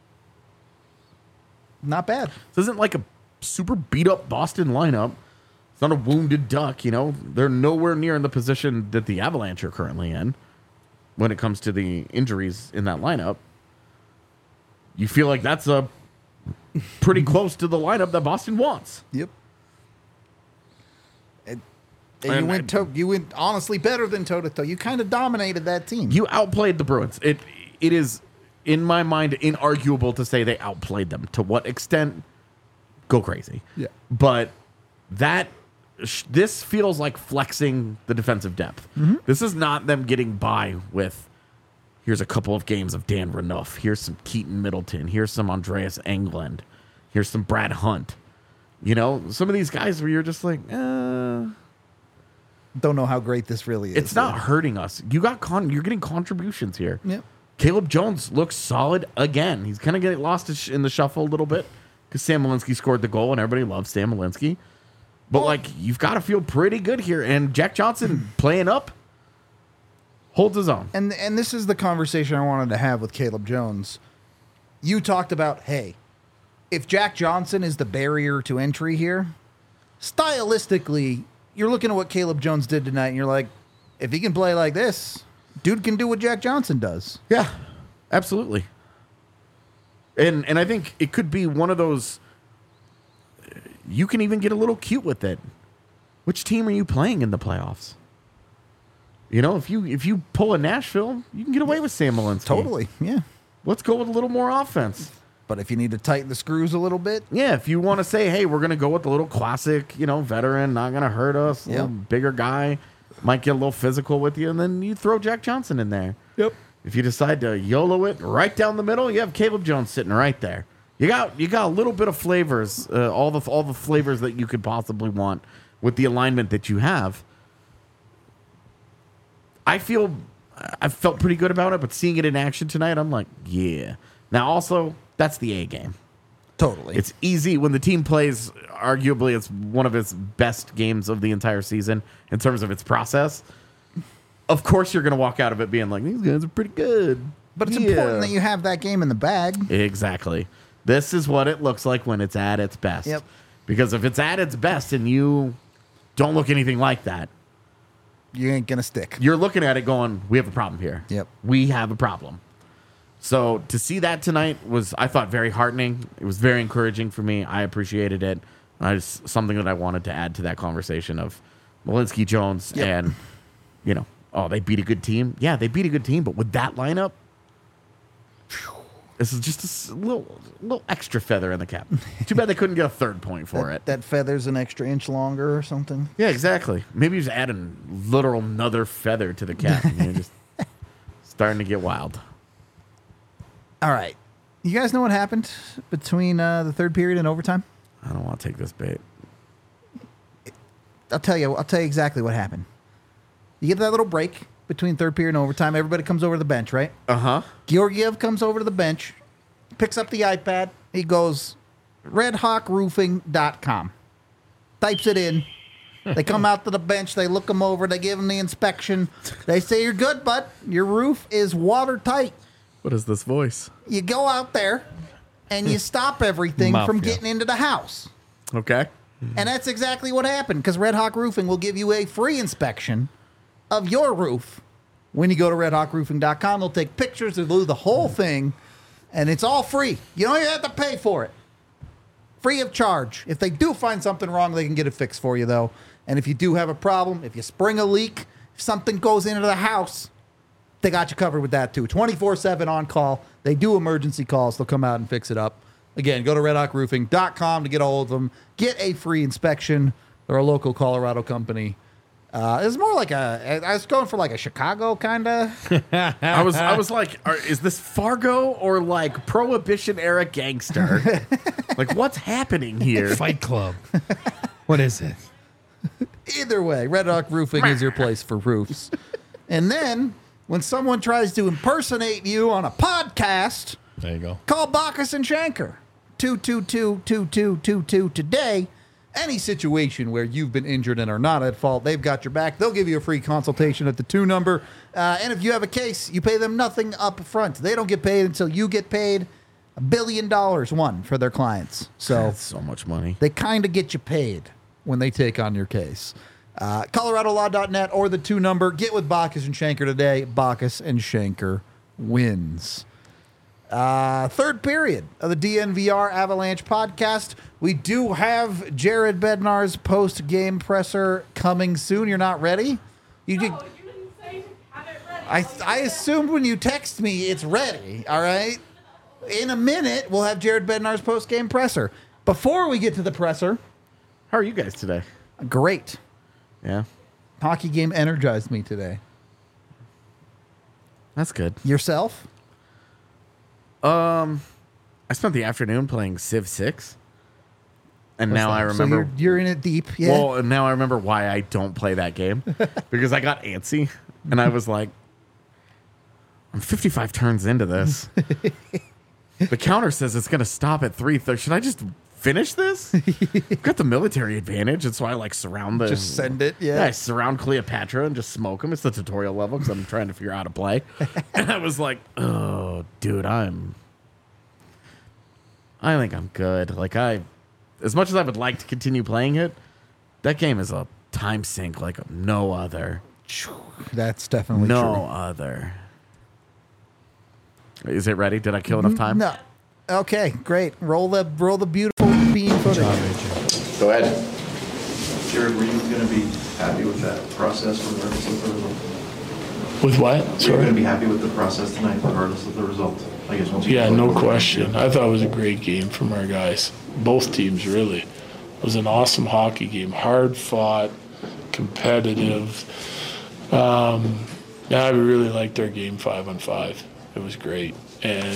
Not bad. This isn't like a super beat up Boston lineup. It's not a wounded duck, you know. They're nowhere near in the position that the Avalanche are currently in when it comes to the injuries in that lineup. You feel like that's a pretty close to the lineup that Boston wants. Yep. And, and And you went to, you went honestly better than toe to toe. You kind of dominated that team. You outplayed the Bruins. It it is in my mind inarguable to say they outplayed them. To what extent? Go crazy. Yeah. But that sh- this feels like flexing the defensive depth. Mm-hmm. This is not them getting by with here's a couple of games of Dan Renouf. Here's some Keaton Middleton. Here's some Andreas Englund. Here's some Brad Hunt. You know, some of these guys where you're just like, uh, Don't know how great this really is. it's not hurting us. You got con- you're getting contributions here. Yep. Caleb Jones looks solid again. He's kind of getting lost in the shuffle a little bit because Sam Malinsky scored the goal and everybody loves Sam Malinsky. But, Well- like, you've got to feel pretty good here. And Jack Johnson playing up holds his own. And and this is the conversation I wanted to have with Caleb Jones. You talked about, hey, if Jack Johnson is the barrier to entry here, stylistically, you're looking at what Caleb Jones did tonight, and you're like, if he can play like this, dude can do what Jack Johnson does. Yeah, absolutely. And and I think it could be one of those, you can even get a little cute with it. Which team are you playing in the playoffs? You know, if you if you pull a Nashville, you can get away with Sam Malinsky. Totally, yeah. Let's go with a little more offense. But if you need to tighten the screws a little bit, Yeah, if you want to say, hey, we're going to go with the little classic, you know, veteran, not going to hurt us, Yep. little bigger guy, might get a little physical with you, and then you throw Jack Johnson in there. yep. If you decide to YOLO it right down the middle, you have Caleb Jones sitting right there. You got you got a little bit of flavors, uh, all the all the flavors that you could possibly want with the alignment that you have. I feel I felt pretty good about it, but seeing it in action tonight, I'm like, yeah. Now, also, that's the A game. Totally. It's easy when the team plays. Arguably, it's one of its best games of the entire season in terms of its process. Of course, you're going to walk out of it being like, these guys are pretty good. But it's Yeah. important that you have that game in the bag. Exactly. This is what it looks like when it's at its best. Yep. Because if it's at its best and you don't look anything like that, You ain't going to stick. you're looking at it going, we have a problem here. Yep. We have a problem. So to see that tonight was, I thought, very heartening. It was very encouraging for me. I appreciated it. I just, something that I wanted to add to that conversation of Malinsky, Jones, Yep. and, you know, oh, they beat a good team. Yeah, they beat a good team, but with that lineup, phew, this is just a s- little, little extra feather in the cap. Too bad they couldn't get a third point for that, it. that feather's an extra inch longer or something. Yeah, exactly. Maybe just add a literal another feather to the cap. And you're just starting to get wild. All right. You guys know what happened between uh, the third period and overtime? I don't want to take this bait. I'll tell you. I'll tell you exactly what happened. You get that little break between third period and overtime. Everybody comes over to the bench, right? Uh huh. Georgiev comes over to the bench, picks up the iPad. He goes, red hawk roofing dot com. Types it in. They come out to the bench. They look him over. They give him the inspection. They say, you're good, bud. Your roof is watertight. What is this voice? You go out there and you stop everything from Mafia. getting into the house. Okay. And that's exactly what happened, because Red Hawk Roofing will give you a free inspection of your roof when you go to red hawk roofing dot com. They'll take pictures, they'll do the whole thing, and it's all free. You don't even have to pay for it. Free of charge. If they do find something wrong, they can get it fixed for you, though. And if you do have a problem, if you spring a leak, if something goes into the house, they got you covered with that, too. twenty-four seven on call. They do emergency calls. They'll come out and fix it up. Again, go to red hawk roofing dot com to get a hold of them. Get a free inspection. They're a local Colorado company. Uh, it's more like a. I was going for like a Chicago kind of. I was I was like, are, is this Fargo or like Prohibition era gangster? Like, what's happening here? Fight Club. What is it? Either way, Red Hawk Roofing is your place for roofs. And then when someone tries to impersonate you on a podcast, There you go. call Bacchus and Shanker. two two two, two two two two today. Any situation where you've been injured and are not at fault, they've got your back. They'll give you a free consultation at the two number. Uh, and if you have a case, you pay them nothing up front. They don't get paid until you get paid a billion dollars, one, for their clients. So That's so much money. they kind of get you paid when they take on your case. Uh, Colorado Law dot net or the two number. Get with Bacchus and Shanker today. Bacchus and Shanker wins. Uh, third period of the D N V R Avalanche podcast. We do have Jared Bednar's post-game presser coming soon. You're not ready? You did, No, you didn't say to have it ready. I, I assumed when you text me it's ready, all right? In a minute, we'll have Jared Bednar's post-game presser. Before we get to the presser, How are you guys today? great. Yeah, Hockey game energized me today. that's good. Yourself? I spent the afternoon playing Civ six, and What's now that? I remember. So you're, you're in it deep, yeah? Well, and now I remember why I don't play that game because I got antsy and I was like, I'm fifty-five turns into this. The counter says it's going to stop at three thirty. Should I just finish this? I've got the military advantage, and so I like surround the. Just send it, yeah. Yeah, I surround Cleopatra and just smoke him. It's the tutorial level because I'm trying to figure out how to play. And I was like, oh, dude, I'm. I think I'm good. Like, I. As much as I would like to continue playing it, that game is a time sink like no other. That's definitely No true. other. Is it ready? Did I kill enough time? No. Okay, great. Roll the roll the beautiful bean footage. Go ahead. Jared, were you going to be happy with that process regardless of the result? With what? Were you Sorry. going to be happy with the process tonight regardless of the result? I guess once you Yeah, get no over it. question. I thought it was a great game from our guys. Both teams, really. It was an awesome hockey game. Hard fought, competitive. Um, Yeah, I really liked our game five on five. It was great. And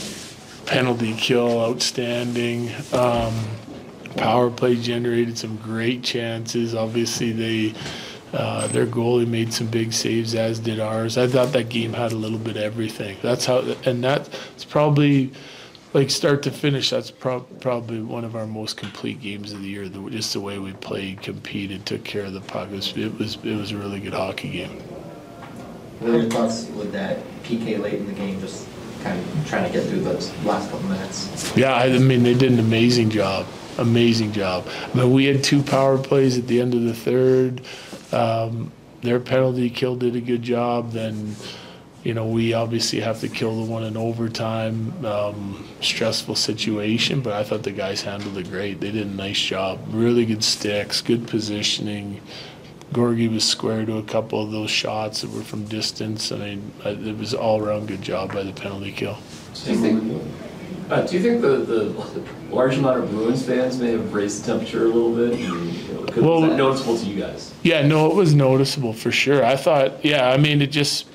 penalty kill, outstanding. Um, power play generated some great chances. Obviously, they uh, their goalie made some big saves, as did ours. I thought that game had a little bit of everything. That's how, and that's probably, like start to finish, that's pro- probably one of our most complete games of the year. The, just the way we played, competed, took care of the puck. It was, it was, it was a really good hockey game. What are your thoughts with that P K late in the game, just kind of trying to get through those last couple minutes? Yeah, I mean, they did an amazing job. Amazing job. I mean, we had two power plays at the end of the third. Um, their penalty kill did a good job. Then, you know, we obviously have to kill the one in overtime. Um, stressful situation, but I thought the guys handled it great. They did a nice job. Really good sticks, good positioning. Gorgie was square to a couple of those shots that were from distance. I mean, it was all around good job by the penalty kill. Do you think, uh, do you think the, the large amount of Bruins fans may have raised the temperature a little bit? And, you know, could, Well, was that noticeable to you guys? Yeah, no, it was noticeable for sure. I thought, yeah, I mean, it just,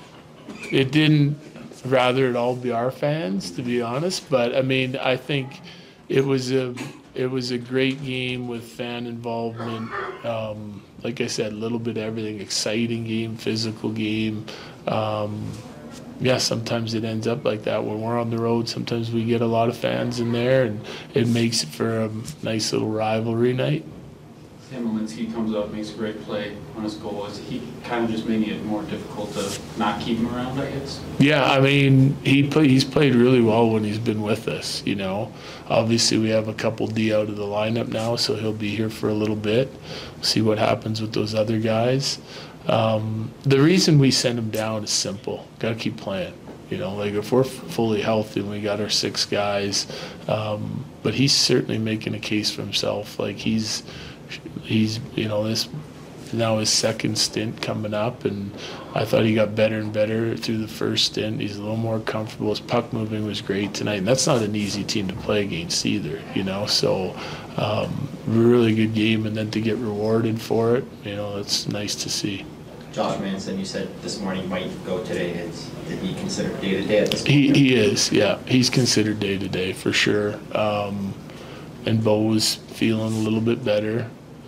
it didn't rather it all be our fans, to be honest. But I mean, I think it was a, it was a great game with fan involvement. Um, like I said, a little bit of everything, exciting game, physical game. Um, yeah, sometimes it ends up like that when we're on the road. Sometimes we get a lot of fans in there, and it makes it for a nice little rivalry night. Sam Malinsky comes up, makes a great play on his goal. Is he kind of just making it more difficult to not keep him around, I guess? Yeah, I mean, he play, he's played really well when he's been with us, you know. Obviously, we have a couple D out of the lineup now, so he'll be here for a little bit. See what happens with those other guys. Um, the reason we send him down is simple. Got to keep playing. You know, like if we're fully healthy and we got our six guys, um, but he's certainly making a case for himself. Like he's, he's, you know, this now his second stint coming up, and I thought he got better and better through the first stint. He's a little more comfortable. His puck moving was great tonight, and that's not an easy team to play against either, you know. So, um, really good game, and then to get rewarded for it, you know, it's nice to see. Josh Manson, you said this morning you might go today. Is, did he consider day to day at this point? He he is, yeah. He's considered day to day for sure. Um, and Bo was feeling a little bit better.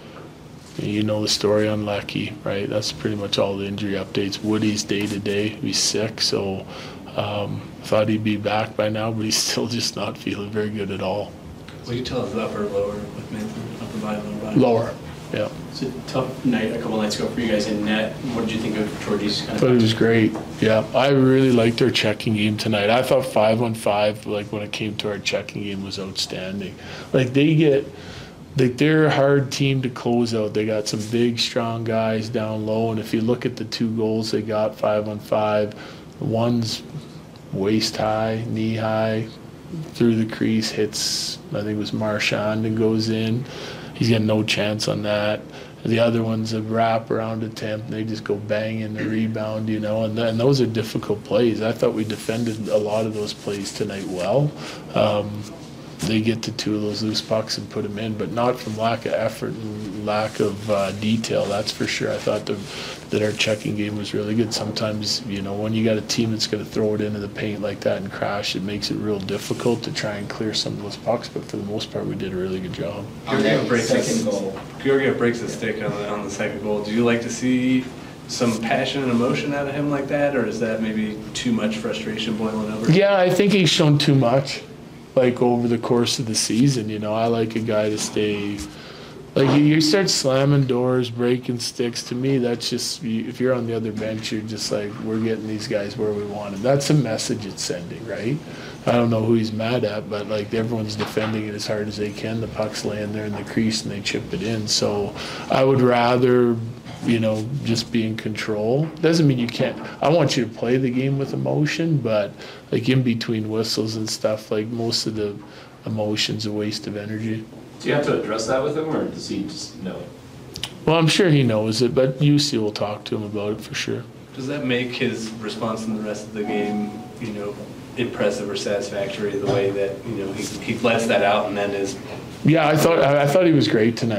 You know the story on Lecky, right? That's pretty much all the injury updates. Woody's day to day. He's sick, so um, thought he'd be back by now, but he's still just not feeling very good at all. Will you tell us upper or lower with Manson? Upper body, lower body? Lower, yeah. It's a tough night a couple nights ago for you guys in net. What did you think of Georgie's kind of? But it was great. Yeah, I really liked our checking game tonight. I thought five on five, like when it came to our checking game, was outstanding. Like they get. Like they're a hard team to close out. They got some big, strong guys down low, and if you look at the two goals they got five on five, one's waist high, knee high, through the crease, hits, I think it was Marchand, and goes in. He's got no chance on that. The other one's a wrap around attempt. They just go bang in the rebound, you know, and, and those are difficult plays. I thought we defended a lot of those plays tonight well. Um, They get to two of those loose pucks and put them in, but not from lack of effort and lack of uh, detail, that's for sure. I thought the, that our checking game was really good. Sometimes, you know, when you got a team that's going to throw it into the paint like that and crash, it makes it real difficult to try and clear some of those pucks, but for the most part, we did a really good job. Georgiev breaks second goal. Georgiev breaks the stick on the, on the second goal. Do you like to see some passion and emotion out of him like that, or is that maybe too much frustration boiling over? Yeah, I think he's shown too much. Like over the course of the season, you know, I like a guy to stay. Like you start slamming doors, breaking sticks. To me, that's just if you're on the other bench, you're just like, we're getting these guys where we want them. That's a message it's sending, right? I don't know who he's mad at, but like everyone's defending it as hard as they can. The puck's laying there in the crease and they chip it in. So I would rather, you know, just be in control. Doesn't mean you can't. I want you to play the game with emotion, but like in between whistles and stuff, like most of the emotion's a waste of energy. Do you have to address that with him, or does he just know it? Well, I'm sure he knows it, but U C will talk to him about it for sure. Does that make his response in the rest of the game, you know, impressive or satisfactory, the way that, you know, he, he lets that out and then is... Yeah, I thought I, I thought he was great tonight.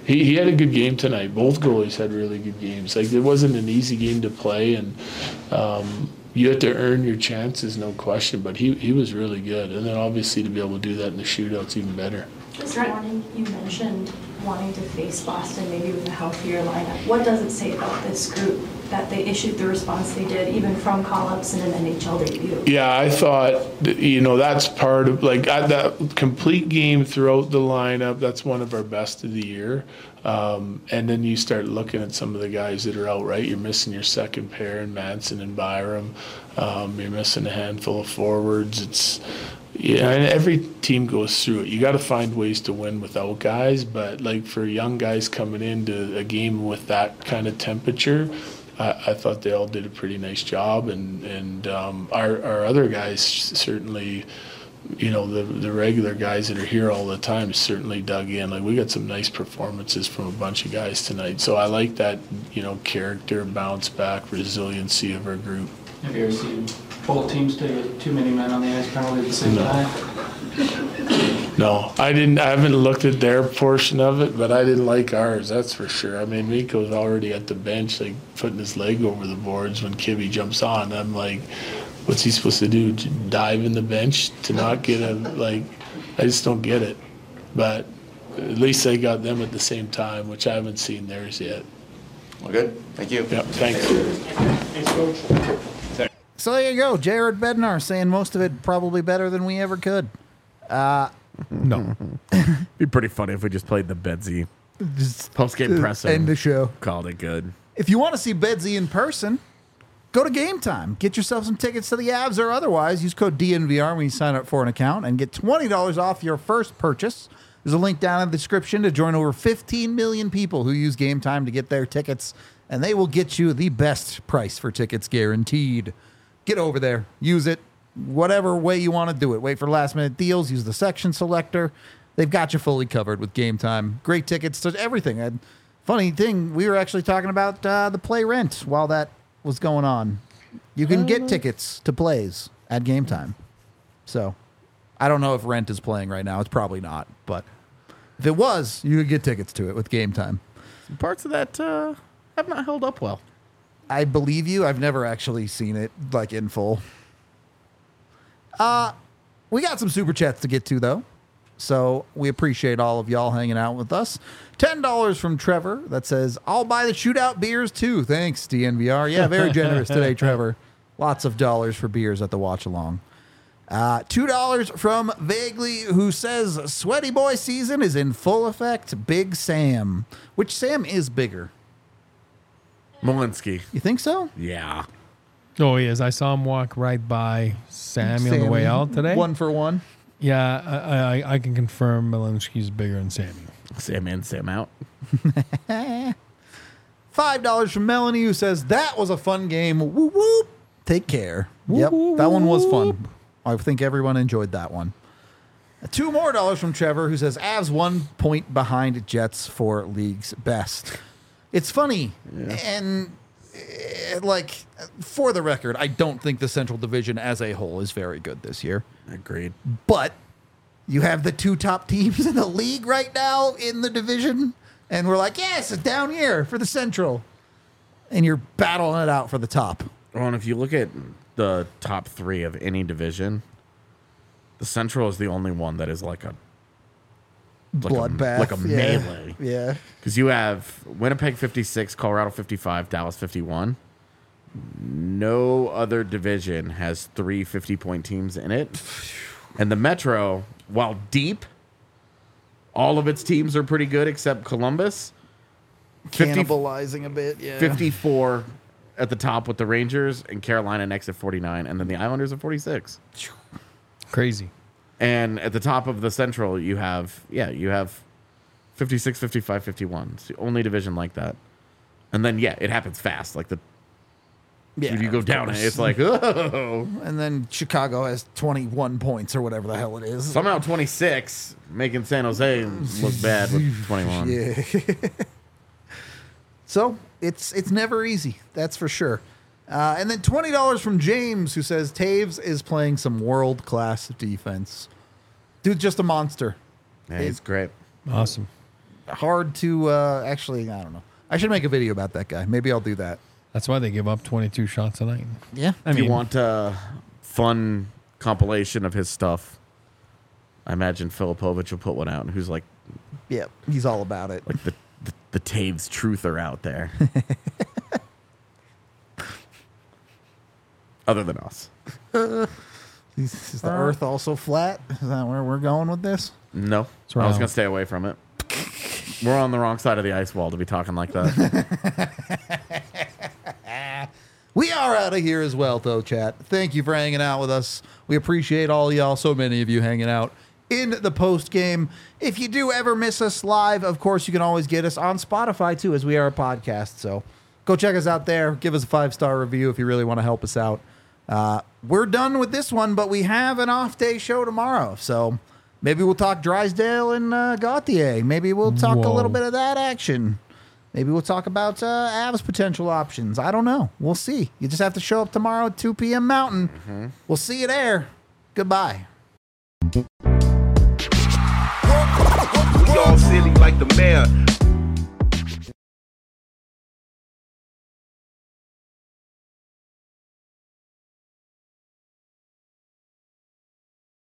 he, he had a good game tonight. Both goalies had really good games. Like, it wasn't an easy game to play, and um, you had to earn your chances, no question. But he, he was really good. And then obviously to be able to do that in the shootouts, even better. This morning you mentioned wanting to face Boston maybe with a healthier lineup. What does it say about this group that they issued the response they did, even from call-ups in an N H L debut? Yeah, I thought, that, you know, that's part of, like, I, that complete game throughout the lineup, that's one of our best of the year. Um, and then you start looking at some of the guys that are out, right? You're missing your second pair in Manson and Byram. Um, you're missing a handful of forwards. It's, yeah, and every team goes through it. You got to find ways to win without guys, but like for young guys coming into a game with that kind of temperature, I, I thought they all did a pretty nice job, and and um, our our other guys certainly, you know, the the regular guys that are here all the time certainly dug in. Like, we got some nice performances from a bunch of guys tonight, so I like that, you know, character, bounce back, resiliency of our group. Have you ever seen both teams take too many men on the ice penalty at the same No. time? No, I didn't. I haven't looked at their portion of it, but I didn't like ours. That's for sure. I mean, Mikko's already at the bench, like putting his leg over the boards when Kibby jumps on. I'm like, what's he supposed to do? Dive in the bench to not get a like? I just don't get it. But at least they got them at the same time, which I haven't seen theirs yet. Well, good. Thank you. Yep. Thanks. Thanks, Coach. So there you go. Jared Bednar saying most of it probably better than we ever could. Uh, No. Be pretty funny if we just played the Bedsy just post game press and end the show. called it good. If you want to see Bedsy in person, go to Game Time. Get yourself some tickets to the Avs or otherwise. Use code D N V R when you sign up for an account and get twenty dollars off your first purchase. There's a link down in the description to join over fifteen million people who use Game Time to get their tickets, and they will get you the best price for tickets guaranteed. Get over there. Use it. Whatever way you want to do it. Wait for last minute deals. Use the section selector. They've got you fully covered with Game Time. Great tickets to everything. And funny thing, we were actually talking about uh, the play rent while that was going on. You can get tickets to plays at Game Time. So I don't know if Rent is playing right now. It's probably not. But if it was, you could get tickets to it with Game Time. Some parts of that uh, have not held up well. I believe you. I've never actually seen it like in full. Uh, we got some super chats to get to, though. So we appreciate all of y'all hanging out with us. ten dollars from Trevor that says, I'll buy the shootout beers, too. Thanks, D N V R. Yeah, very generous today, Trevor. Lots of dollars for beers at the watch-along. Uh, two dollars from Vaguely, who says, Sweaty Boy season is in full effect. Big Sam. Which Sam is bigger? Malinsky. You think so? Yeah. Oh, he is. I saw him walk right by Sammy, on the way out today. One for one. Yeah, I, I, I can confirm Malinsky's bigger than Sammy. Sam in, Sam out. Five dollars from Melanie, who says, that was a fun game. Whoop, whoop. Take care. Yep, that one was fun. I think everyone enjoyed that one. Two more dollars from Trevor, who says, Avs one point behind Jets for league's best. It's funny, yeah. and uh, like, for the record, I don't think the Central Division as a whole is very good this year. Agreed. But you have the two top teams in the league right now in the division, and we're like, yes, it's down here for the Central. And you're battling it out for the top. Well, and if you look at the top three of any division, the Central is the only one that is like a like bloodbath, a, like a yeah. melee. Yeah, because you have Winnipeg fifty-six, Colorado fifty-five, Dallas fifty-one. No other division has three fifty-point teams in it, and the Metro, while deep, all of its teams are pretty good except Columbus. Cannibalizing a bit, yeah. fifty-four at the top with the Rangers, and Carolina next at forty-nine, and then the Islanders at forty-six. Crazy. And at the top of the Central, you have, yeah, you have fifty-six, fifty-five, fifty-one. It's the only division like that. And then, yeah, it happens fast. Like, the yeah, if you go down it, it's like, oh. And then Chicago has twenty-one points or whatever the hell it is. Somehow twenty-six, making San Jose look bad with twenty-one. Yeah. So it's it's never easy, that's for sure. Uh, and then twenty dollars from James, who says Taves is playing some world-class defense. Dude's just a monster. Yeah, he's great. Awesome. hard to uh, actually. I don't know. I should make a video about that guy. Maybe I'll do that. That's why they give up twenty-two shots a night. Yeah. I if mean, you want a fun compilation of his stuff, I imagine Filipovic will put one out, who's like, yeah, he's all about it. like the the, the Taves truther out there. Other than us. Is, is the Earth also flat? Is that where we're going with this? No, wrong. I was gonna stay away from it. We're on the wrong side of the ice wall to be talking like that. We are out of here as well, though, chat. Thank you for hanging out with us. We appreciate all y'all, so many of you hanging out in the post game. If you do ever miss us live, of course, you can always get us on Spotify, too, as we are a podcast. So go check us out there. Give us a five-star review if you really want to help us out. Uh, we're done with this one, but we have an off-day show tomorrow. So maybe we'll talk Drysdale and uh, Gauthier. Maybe we'll talk Whoa. a little bit of that action. Maybe we'll talk about uh, Avs potential options. I don't know. We'll see. You just have to show up tomorrow at two p.m. Mountain. Mm-hmm. We'll see you there. Goodbye. We all silly like the mayor.